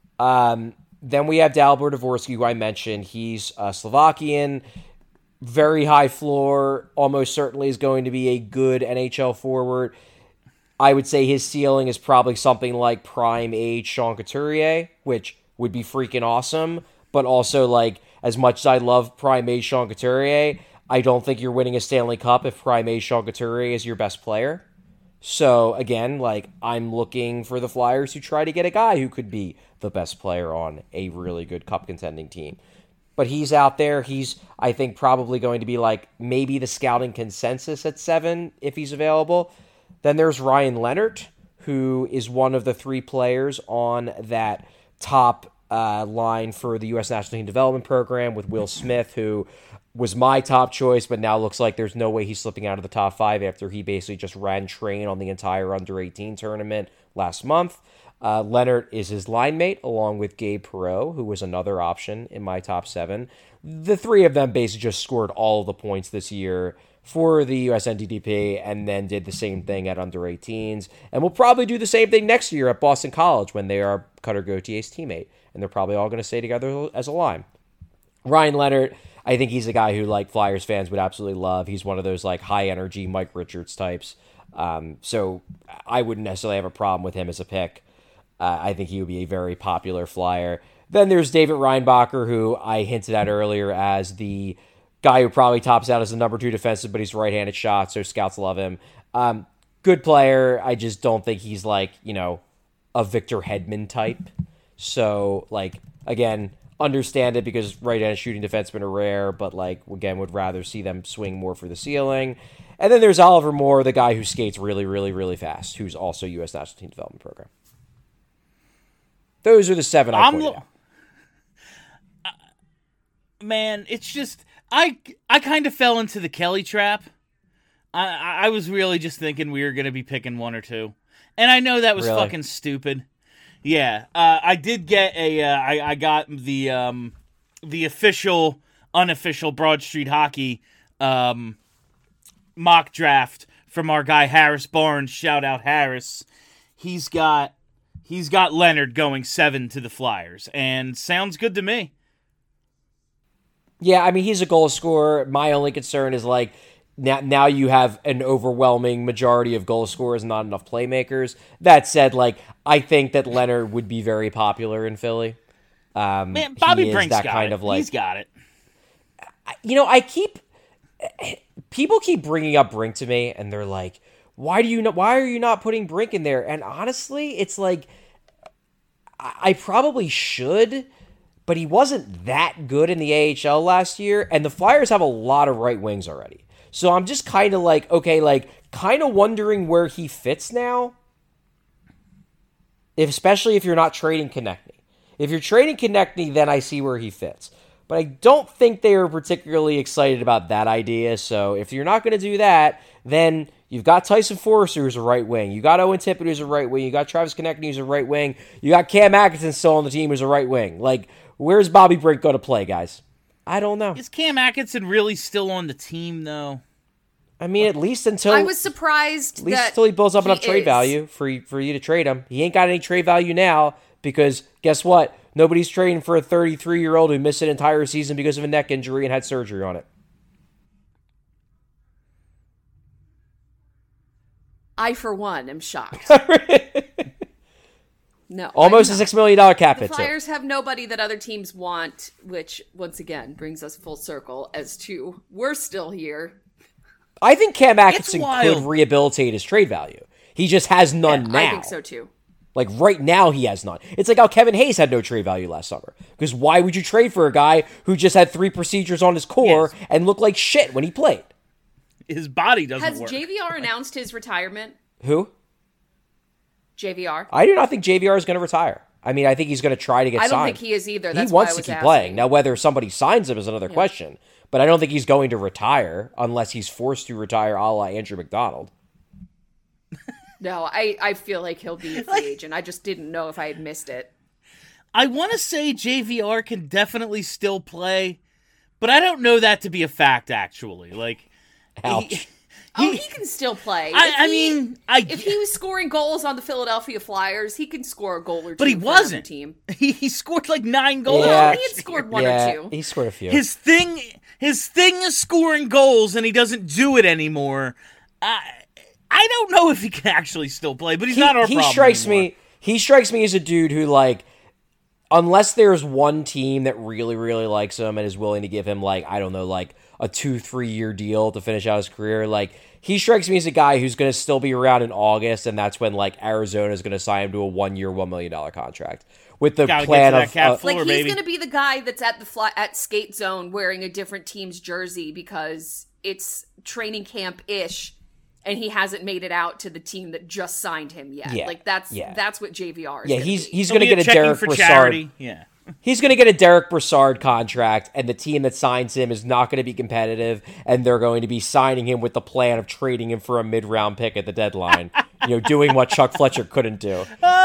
Um, then we have Dalibor Dvorsky, who I mentioned. He's uh, Slovakian. Very high floor, almost certainly is going to be a good N H L forward. I would say his ceiling is probably something like prime age Sean Couturier, which would be freaking awesome. But also, like, as much as I love prime age Sean Couturier, I don't think you're winning a Stanley Cup if prime age Sean Couturier is your best player. So, again, like, I'm looking for the Flyers to try to get a guy who could be the best player on a really good cup contending team. But he's out there. He's, I think, probably going to be like maybe the scouting consensus at seven if he's available. Then there's Ryan Leonard, who is one of the three players on that top uh, line for the U S National Team Development Program with Will Smith, who was my top choice, but now looks like there's no way he's slipping out of the top five after he basically just ran train on the entire under eighteen tournament last month. Uh, Leonard is his line mate, along with Gabe Perreault, who was another option in my top seven. The three of them basically just scored all of the points this year for the U S N T D P and then did the same thing at under eighteens. And will probably do the same thing next year at Boston College when they are Cutter Gautier's teammate. And they're probably all going to stay together as a line. Ryan Leonard, I think he's a guy who like Flyers fans would absolutely love. He's one of those like high energy Mike Richards types. Um, so I wouldn't necessarily have a problem with him as a pick. Uh, I think he would be a very popular Flyer. Then there's David Reinbacher, who I hinted at earlier as the guy who probably tops out as the number two defensive, but he's a right-handed shot, so scouts love him. Um, good player. I just don't think he's like, you know, a Victor Hedman type. So, like, again, understand it because right-handed shooting defensemen are rare, but, like, again, would rather see them swing more for the ceiling. And then there's Oliver Moore, the guy who skates really, really, really fast, who's also U S National Team Development Program. Those are the seven I I'm pointed lo- out. Uh, man, it's just I I kind of fell into the Kelly trap. I I was really just thinking we were going to be picking one or two, and I know that was Really? fucking stupid. Yeah, uh, I did get a uh, I I got the um the official unofficial Broad Street Hockey um mock draft from our guy Harris Barnes. Shout out Harris. He's got. He's got Leonard going seven to the Flyers, and sounds good to me. Yeah, I mean, he's a goal scorer. My only concern is, like, now, now you have an overwhelming majority of goal scorers, not enough playmakers. That said, like, I think that Leonard would be very popular in Philly. Um, Man, Bobby he is Brink's that got kind it. of like, He's got it. you know, I keep people keep bringing up Brink to me, and they're like, "Why do you not? Why are you not putting Brink in there?" And honestly, it's like I, I probably should, but he wasn't that good in the A H L last year, and the Flyers have a lot of right wings already. So I'm just kind of like, okay, like kind of wondering where he fits now. If, especially if you're not trading Konechny. If you're trading Konechny, then I see where he fits. But I don't think they are particularly excited about that idea. So if you're not going to do that, then you've got Tyson Forrester who's a right wing. You got Owen Tippett who's a right wing. You got Travis Konechny who's a right wing. You got Cam Atkinson still on the team who's a right wing. Like, where's Bobby Brink going to play, guys? I don't know. Is Cam Atkinson really still on the team, though? I mean, at least until I was surprised at least that until he builds up he enough trade is. value for you, for you to trade him. He ain't got any trade value now because guess what? Nobody's trading for a thirty-three-year-old who missed an entire season because of a neck injury and had surgery on it. I, for one, am shocked. No, Almost I'm a not. six million dollar cap The hit. too. Flyers have nobody that other teams want, which once again brings us full circle as to we're still here. I think Cam Atkinson wild. could rehabilitate his trade value. He just has none now. I think so too. Like right now, he has none. It's like how Kevin Hayes had no trade value last summer. Because why would you trade for a guy who just had three procedures on his core Yes. and looked like shit when he played? His body doesn't Has work. J V R announced his retirement? Who? J V R. I do not think J V R is going to retire. I mean, I think he's going to try to get I don't signed. think he is either. He That's wants why I to was keep asking. playing. Now, whether somebody signs him is another question. But I don't think he's going to retire unless he's forced to retire a la Andrew McDonald. No, I, I feel like he'll be a free agent. I just didn't know if I had missed it. I want to say J V R can definitely still play, but I don't know that to be a fact, actually. Like, Ouch. he- Oh, he can still play. I- If I he- mean, I- if he was scoring goals on the Philadelphia Flyers, he can score a goal or two. but he for another wasn't. Team. He, he scored like nine goals. Yeah. Well, last he had year. scored one yeah, or two. he scored a few. His thing, his thing is scoring goals, and he doesn't do it anymore. I, I don't know if he can actually still play, but he's he, not our he problem strikes anymore. me he strikes me as a dude who, like, unless there's one team that really really likes him and is willing to give him, like, I don't know, like a two three year deal to finish out his career, like, he strikes me as a guy who's going to still be around in August, and that's when, like, Arizona is going to sign him to a one year one million dollar contract with the Gotta get plan to that of cap uh, floor, Like, he's baby. going to be the guy that's at the fly, at skate zone wearing a different team's jersey because it's training camp ish, and he hasn't made it out to the team that just signed him yet. Yeah, Like that's yeah. that's what J V R is. yeah, gonna he's be. he's He'll going to be get a checking Derek for Brassard. charity. Yeah. He's going to get a Derek Brassard contract, and the team that signs him is not going to be competitive, and they're going to be signing him with the plan of trading him for a mid-round pick at the deadline. You know, doing what Chuck Fletcher couldn't do.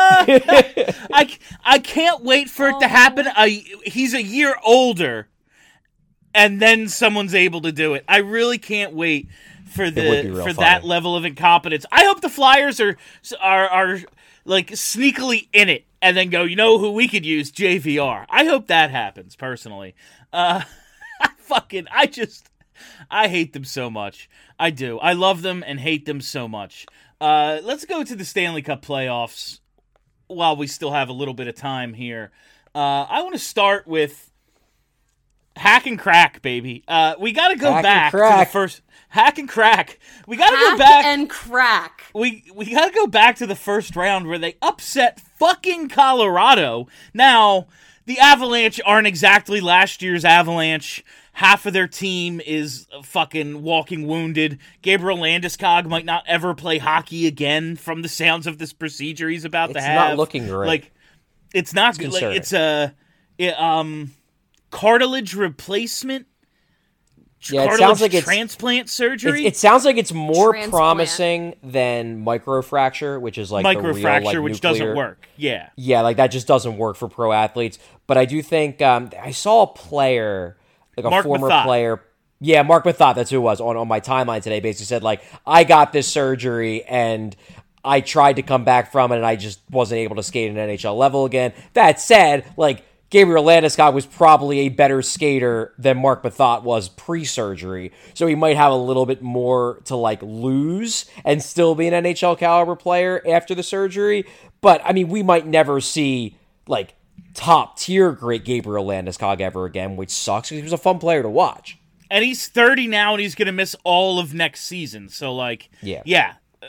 I, I can't wait for it to happen. I, he's a year older, and then someone's able to do it. I really can't wait for would be the real for funny. that level of incompetence. I hope the Flyers are are are like sneakily in it, and then go, you know who we could use? J V R. I hope that happens personally. Uh, I fucking I just I hate them so much. I do. I love them and hate them so much. Uh, let's go to the Stanley Cup playoffs while we still have a little bit of time here. Uh, I want to start with hack and crack, baby. Uh, we got to go Hack and back to the crack. first hack and crack. We got to Hack go back. and crack. we we got to go back to the first round where they upset fucking Colorado. Now, the Avalanche aren't exactly last year's Avalanche. Half of their team is fucking walking wounded. Gabriel Landeskog might not ever play hockey again from the sounds of this procedure he's about to It's have. not looking great. Like, it's not good. Like, concerning. it's a it, um cartilage replacement. Yeah, it cartilage sounds like it's- transplant It, surgery. it sounds like it's more Transplant. promising than microfracture, which is like the real, microfracture, like, which nuclear- doesn't work. Yeah. Yeah, like that just doesn't work for pro athletes. But I do think um, I saw a player, like a Mark former Mathot. player. Yeah, Mark Mathot, that's who it was, on, on my timeline today, basically said, like, I got this surgery and I tried to come back from it and I just wasn't able to skate at an N H L level again. That said, like, Gabriel Landeskog was probably a better skater than Mark Mathot was pre-surgery, so he might have a little bit more to, like, lose and still be an N H L caliber player after the surgery. But, I mean, we might never see, like, top-tier great Gabriel Landeskog ever again, which sucks because he was a fun player to watch. And he's thirty now, and he's going to miss all of next season. So, like, Yeah. yeah. Uh,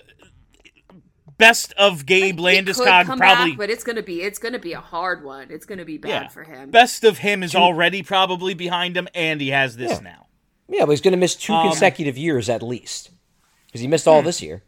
Best of Gabe He could Landeskog, come probably. back, but it's gonna be it's gonna be a hard one. It's gonna be bad yeah. for him. Best of him is already probably behind him, and he has this Yeah. now. Yeah, but he's going to miss two Um, consecutive years at least because he missed all this year.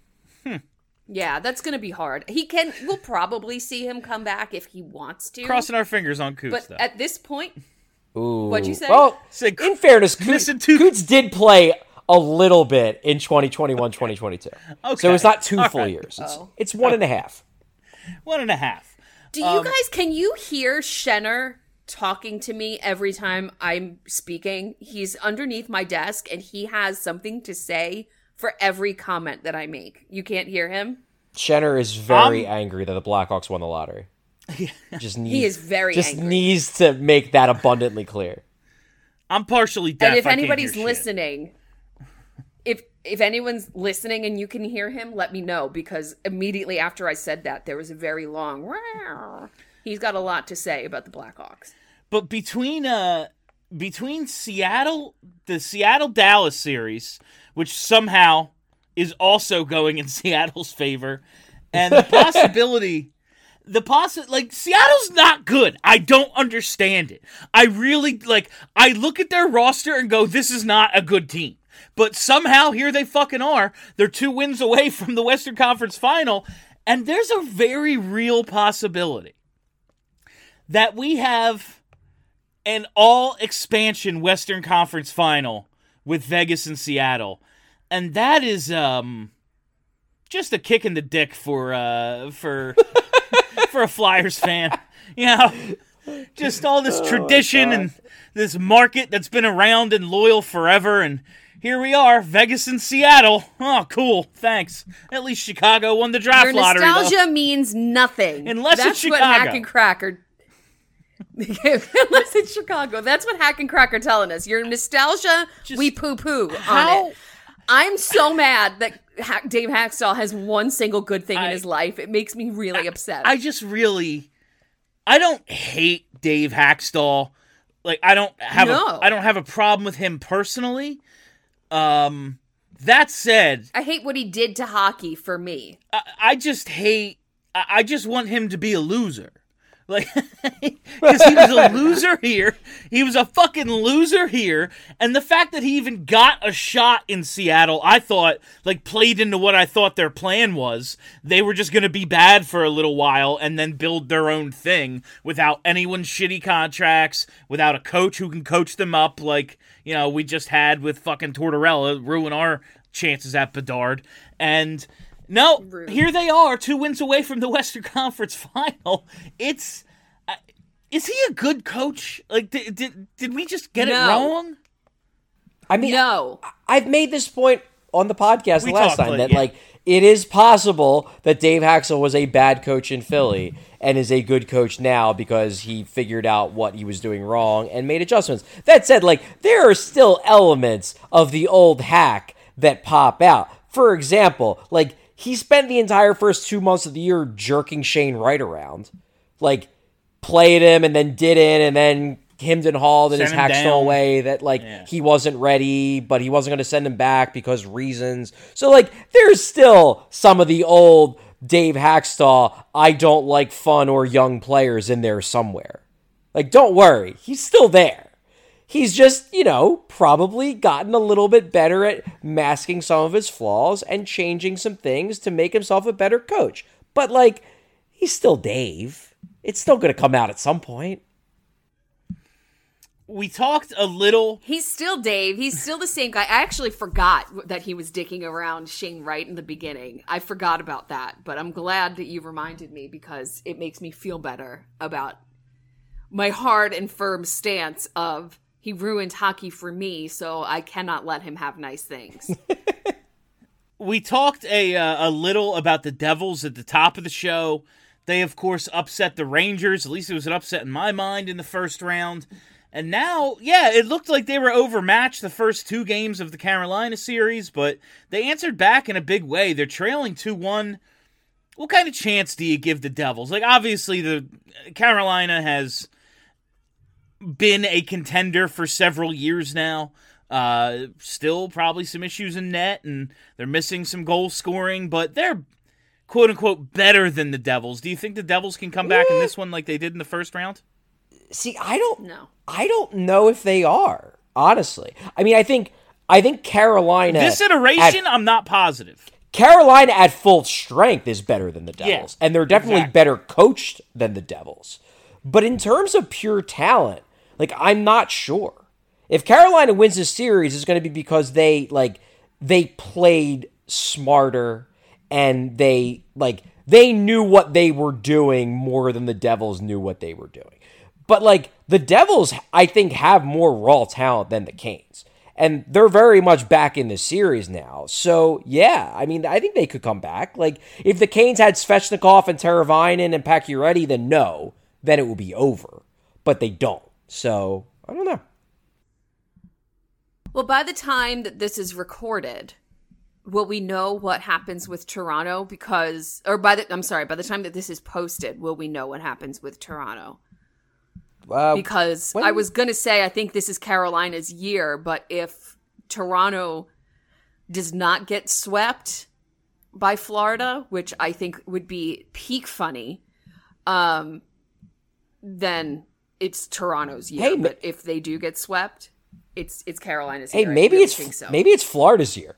Yeah, that's gonna be hard. He can. We'll probably see him come back if he wants to. Crossing our fingers on Coots, but though. at this point, Ooh. What'd you say? Well, Said, in fairness, Coots, missing two- Coots did play a little bit in twenty twenty-one twenty twenty-two. Okay. So it's not two All full right. years. It's, Oh. it's one and a half. One and a half. do Um, you guys can you hear Shenner talking to me every time I'm speaking. He's underneath my desk and he has something to say for every comment that I make. You can't hear him? Shenner is very Um, angry that the Blackhawks won the lottery. Just needs, He is very just angry. needs to make that abundantly clear. I'm partially deaf. And if I can't anybody's hear shit. listening, if if anyone's listening and you can hear him, let me know, because immediately after I said that, there was a very long "Wow." He's got a lot to say about the Blackhawks. But between uh between Seattle, the Seattle Dallas series, which somehow is also going in Seattle's favor, and the possibility, the possi- like Seattle's not good. I don't understand it. I really like. I look at their roster and go, "This is not a good team." But somehow here they fucking are. They're two wins away from the Western Conference Final, and there's a very real possibility that we have an all-expansion Western Conference Final with Vegas and Seattle. And that is um, just a kick in the dick for uh, for for a Flyers fan. You know, just all this Oh, tradition and this market that's been around and loyal forever. And here we are, Vegas and Seattle. Oh, cool. Thanks. At least Chicago won the draft Your lottery, nostalgia though. means nothing. Unless it's That's what Chicago. Hack and Cracker. Unless it's Chicago. That's what Hack and Cracker telling us. Your nostalgia, Just- we poo-poo on How- it. I'm so mad that Hack- Dave Hackstall has one single good thing I- in his life. It makes me really upset. I just really, I don't hate Dave Hackstall. Like I don't have No. a, I don't have a problem with him personally. Um, that said, I hate what he did to hockey for me. I, I just hate. I, I just want him to be a loser. Like, because he was a loser here. He was a fucking loser here. And the fact that he even got a shot in Seattle, I thought, like, played into what I thought their plan was. They were just going to be bad for a little while and then build their own thing without anyone's shitty contracts, without a coach who can coach them up like, you know, we just had with fucking Tortorella ruin our chances at Bedard. And no, Rude. here they are, two wins away from the Western Conference Final. It's, uh, is he a good coach? Like, did did, did we just get No. it wrong? I mean, No. I've made this point on the podcast We last talked, time like, that yeah. like it is possible that Dave Haxel was a bad coach in Philly and is a good coach now because he figured out what he was doing wrong and made adjustments. That said, like there are still elements of the old hack that pop out. For example, like he spent the entire first two months of the year jerking Shane Wright around, like played him and then didn't, and then hemmed and hawed in his Sent him Hackstall down. way that like Yeah. he wasn't ready, but he wasn't going to send him back because reasons. So like there's still some of the old Dave Hackstall, I don't like fun or young players in there somewhere. Like don't worry, he's still there. He's just, you know, probably gotten a little bit better at masking some of his flaws and changing some things to make himself a better coach. But like he's still Dave. It's still going to come out at some point. We talked a little. He's still Dave. He's still the same guy. I actually forgot that he was dicking around Shane Wright in the beginning. I forgot about that, but I'm glad that you reminded me because it makes me feel better about my hard and firm stance of he ruined hockey for me, so I cannot let him have nice things. We talked a uh, a little about the Devils at the top of the show. They, of course, upset the Rangers. At least it was an upset in my mind in the first round. And now, yeah, it looked like they were overmatched the first two games of the Carolina series, but they answered back in a big way. They're trailing two one. What kind of chance do you give the Devils? Like, obviously, the Carolina has been a contender for several years now. Uh, still probably some issues in net, and they're missing some goal scoring, but they're quote-unquote better than the Devils. Do you think the Devils can come back in this one like they did in the first round? See, I don't No. I don't know if they are, honestly. I mean, I think I think Carolina This at- iteration, I'm not positive. Carolina at full strength is better than the Devils, Yeah, and they're definitely exactly. better coached than the Devils. But in terms of pure talent, like I'm not sure. If Carolina wins this series, it's going to be because they like they played smarter and they like they knew what they were doing more than the Devils knew what they were doing. But, like, the Devils, I think, have more raw talent than the Canes. And they're very much back in the series now. So, yeah, I mean, I think they could come back. Like, if the Canes had Svechnikov and Teravainen and Pacioretty, then no, then it would be over. But they don't. So, I don't know. Well, by the time that this is recorded, will we know what happens with Toronto? Because, or by the, I'm sorry, by the time that this is posted, will we know what happens with Toronto? Uh, Because when- I was going to say, I think this is Carolina's year, but if Toronto does not get swept by Florida, which I think would be peak funny, um, then it's Toronto's year. Hey, ma- but if they do get swept, it's it's Carolina's Hey, year. I maybe really it's think so. maybe it's Florida's year.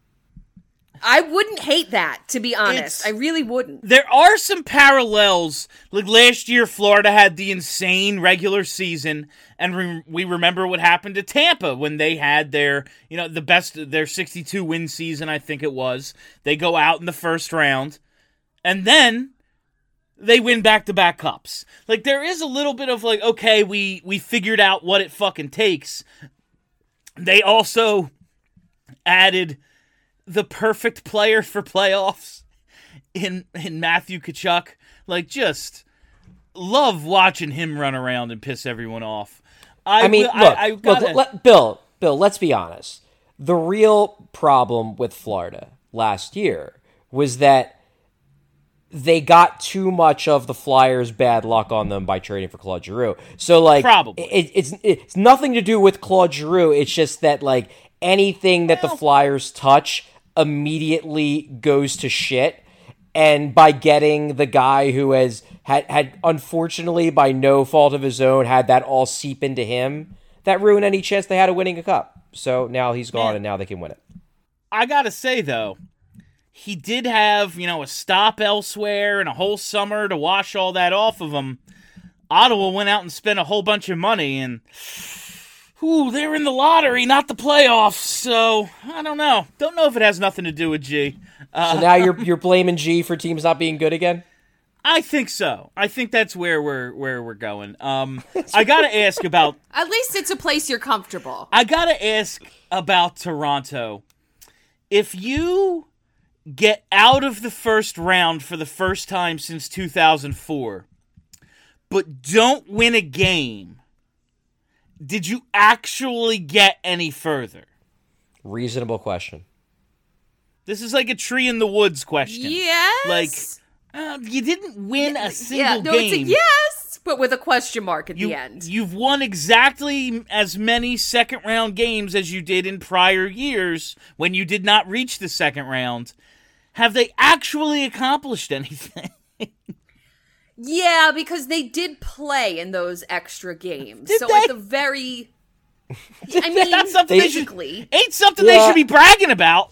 I wouldn't hate that, to be honest. It's- I really wouldn't. There are some parallels. Like last year, Florida had the insane regular season, and re- we remember what happened to Tampa when they had their, you know, the best, their sixty-two win season, I think it was. They go out in the first round, and then they win back-to-back cups. Like, there is a little bit of like, okay, we, we figured out what it fucking takes. They also added the perfect player for playoffs in in Matthew Tkachuk. Like, just love watching him run around and piss everyone off. I, I mean, will- look, I, I look gotta, let, Bill, Bill, let's be honest. The real problem with Florida last year was that they got too much of the Flyers' bad luck on them by trading for Claude Giroux. So, like, Probably. it, it's it's nothing to do with Claude Giroux. It's just that, like, anything that the Flyers touch immediately goes to shit. And by getting the guy who has had, had unfortunately, by no fault of his own, had that all seep into him, that ruined any chance they had of winning a cup. So now he's gone, Man. and now they can win it. I gotta say, though, he did have, you know, a stop elsewhere and a whole summer to wash all that off of him. Ottawa went out and spent a whole bunch of money, and ooh, they're in the lottery, not the playoffs. So I don't know. Don't know if it has nothing to do with G. Uh, So now you're you're blaming G for teams not being good again? I think so. I think that's where we're where we're going. Um, I gotta ask about. At least it's a place you're comfortable. I gotta ask about Toronto. If you get out of the first round for the first time since two thousand four, but don't win a game, did you actually get any further? Reasonable question. This is like a tree in the woods question. Yes. Like, uh, you didn't win a single yeah, no, game. it's a yes, but with a question mark at You, the end. You've won exactly as many second round games as you did in prior years when you did not reach the second round. Have they actually accomplished anything? Yeah, because they did play in those extra games. Did so they? at the very I mean, That's something they should, basically. ain't something they Yeah. should be bragging about.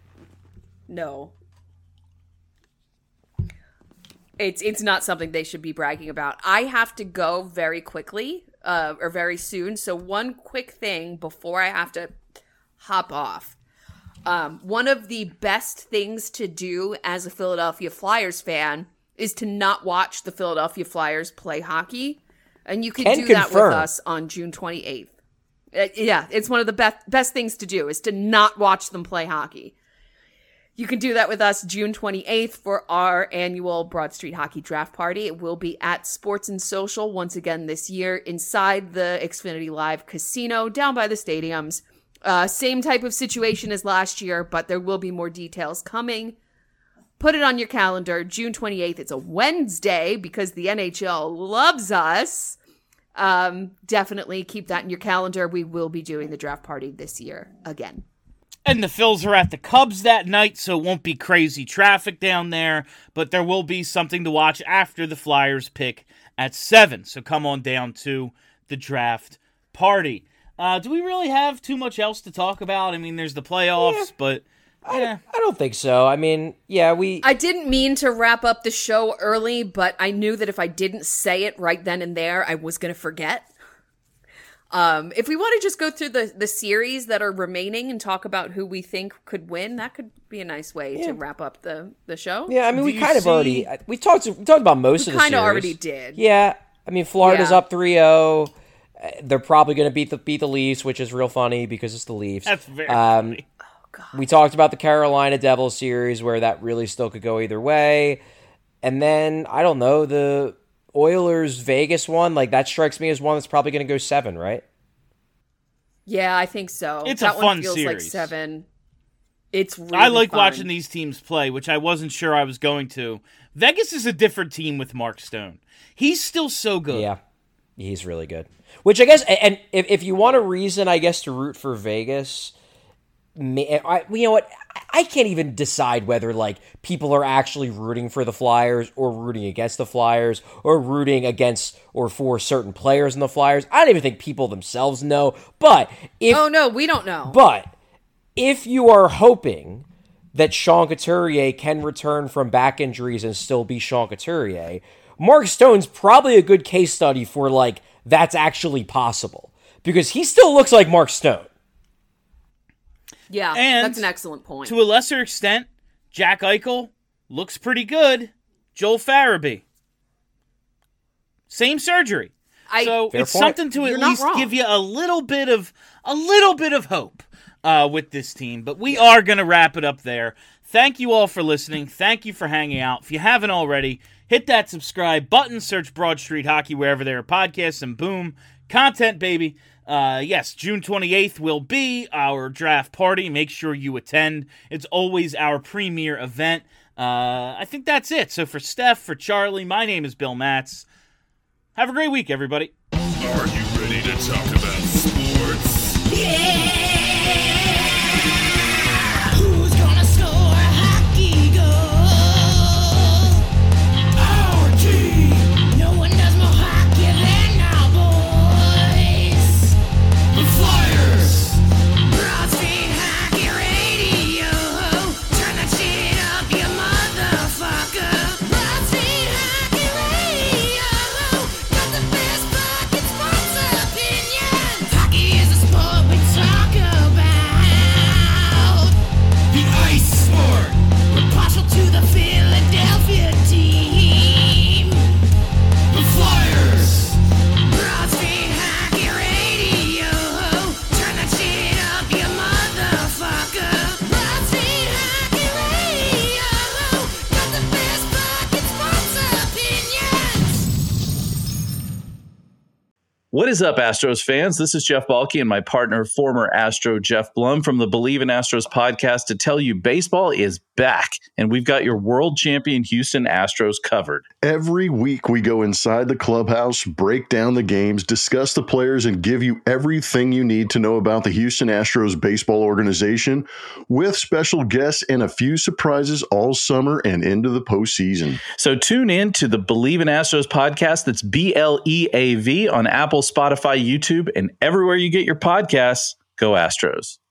No. It's it's not something they should be bragging about. I have to go very quickly, uh, or very soon. So one quick thing before I have to hop off. Um, one of the best things to do as a Philadelphia Flyers fan is to not watch the Philadelphia Flyers play hockey. And you can Can do that confirm. with us on June twenty-eighth. Uh, yeah, it's one of the best best things to do is to not watch them play hockey. You can do that with us June twenty-eighth for our annual Broad Street Hockey Draft Party. It will be at Sports and Social once again this year inside the Xfinity Live Casino down by the stadiums. Uh, same type of situation as last year, but there will be more details coming. Put it on your calendar, June twenty-eighth. It's a Wednesday because the N H L loves us. Um, definitely keep that in your calendar. We will be doing the draft party this year again. And the Phils are at the Cubs that night, so it won't be crazy traffic down there, but there will be something to watch after the Flyers pick at seven. So come on down to the draft party. Uh, do we really have too much else to talk about? I mean, there's the playoffs, Yeah. but yeah. I don't think so. I mean, yeah, we... I didn't mean to wrap up the show early, but I knew that if I didn't say it right then and there, I was going to forget. Um, if we want to just go through the, the series that are remaining and talk about who we think could win, that could be a nice way Yeah. to wrap up the, the show. Yeah, I mean, Do we you kind of see- already... We talked, we talked about most We of the series. kind of already did. Yeah, I mean, Florida's Yeah. up three oh. They're probably going to beat the beat the Leafs, which is real funny because it's the Leafs. That's very um, funny. We talked about the Carolina Devils series where that really still could go either way. And then, I don't know, the Oilers Vegas one, like that strikes me as one that's probably going to go seven, right? Yeah, I think so. It's a that fun one feels like series. seven. It's really I like fun. watching these teams play, which I wasn't sure I was going to. Vegas is a different team with Mark Stone. He's still so good. Yeah, he's really good. Which I guess, and if, if you want a reason, I guess, to root for Vegas, I, you know what? I can't even decide whether like people are actually rooting for the Flyers or rooting against the Flyers or rooting against or for certain players in the Flyers. I don't even think people themselves know. But if Oh no, we don't know. But if you are hoping that Sean Couturier can return from back injuries and still be Sean Couturier, Mark Stone's probably a good case study for like that's actually possible because he still looks like Mark Stone. Yeah, And that's an excellent point. To a lesser extent, Jack Eichel looks pretty good. Joel Farabee. Same surgery. I, So Fair it's point. something to You're at not least wrong. give you a little bit of a little bit of hope uh, with this team. But we are going to wrap it up there. Thank you all for listening. Thank you for hanging out. If you haven't already, hit that subscribe button, search Broad Street Hockey wherever there are podcasts, and boom, content, baby. Uh, yes, June twenty-eighth will be our draft party. Make sure you attend. It's always our premier event. Uh, I think that's it. So for Steph, for Charlie, my name is Bill Matz. Have a great week, everybody. Are you ready to talk about sports? Who's gonna score a hockey goal? Our team. No one does more hockey than our boys. The Flyers. Broad Street Hockey Radio. Turn that shit up, you motherfucker. Broad Street Hockey Radio. Got the best fucking sports opinions. Hockey is a sport we talk about. The ice sport. We're partial to the Philadelphia team. The Flyers. Broad Street Hockey Radio. Turn that shit up, you motherfucker. Broad Street Hockey Radio. Got the best fucking sports opinions. What is up, Astros fans? This is Jeff Balke and my partner, former Astro Jeff Blum from the Believe in Astros podcast to tell you baseball is back, and we've got your world champion Houston Astros covered. Every week we go inside the clubhouse, break down the games, discuss the players, and give you everything you need to know about the Houston Astros baseball organization with special guests and a few surprises all summer and into the postseason. So tune in to the Believe in Astros podcast. That's B L E A V on Apple, Spotify, YouTube, and everywhere you get your podcasts. Go Astros.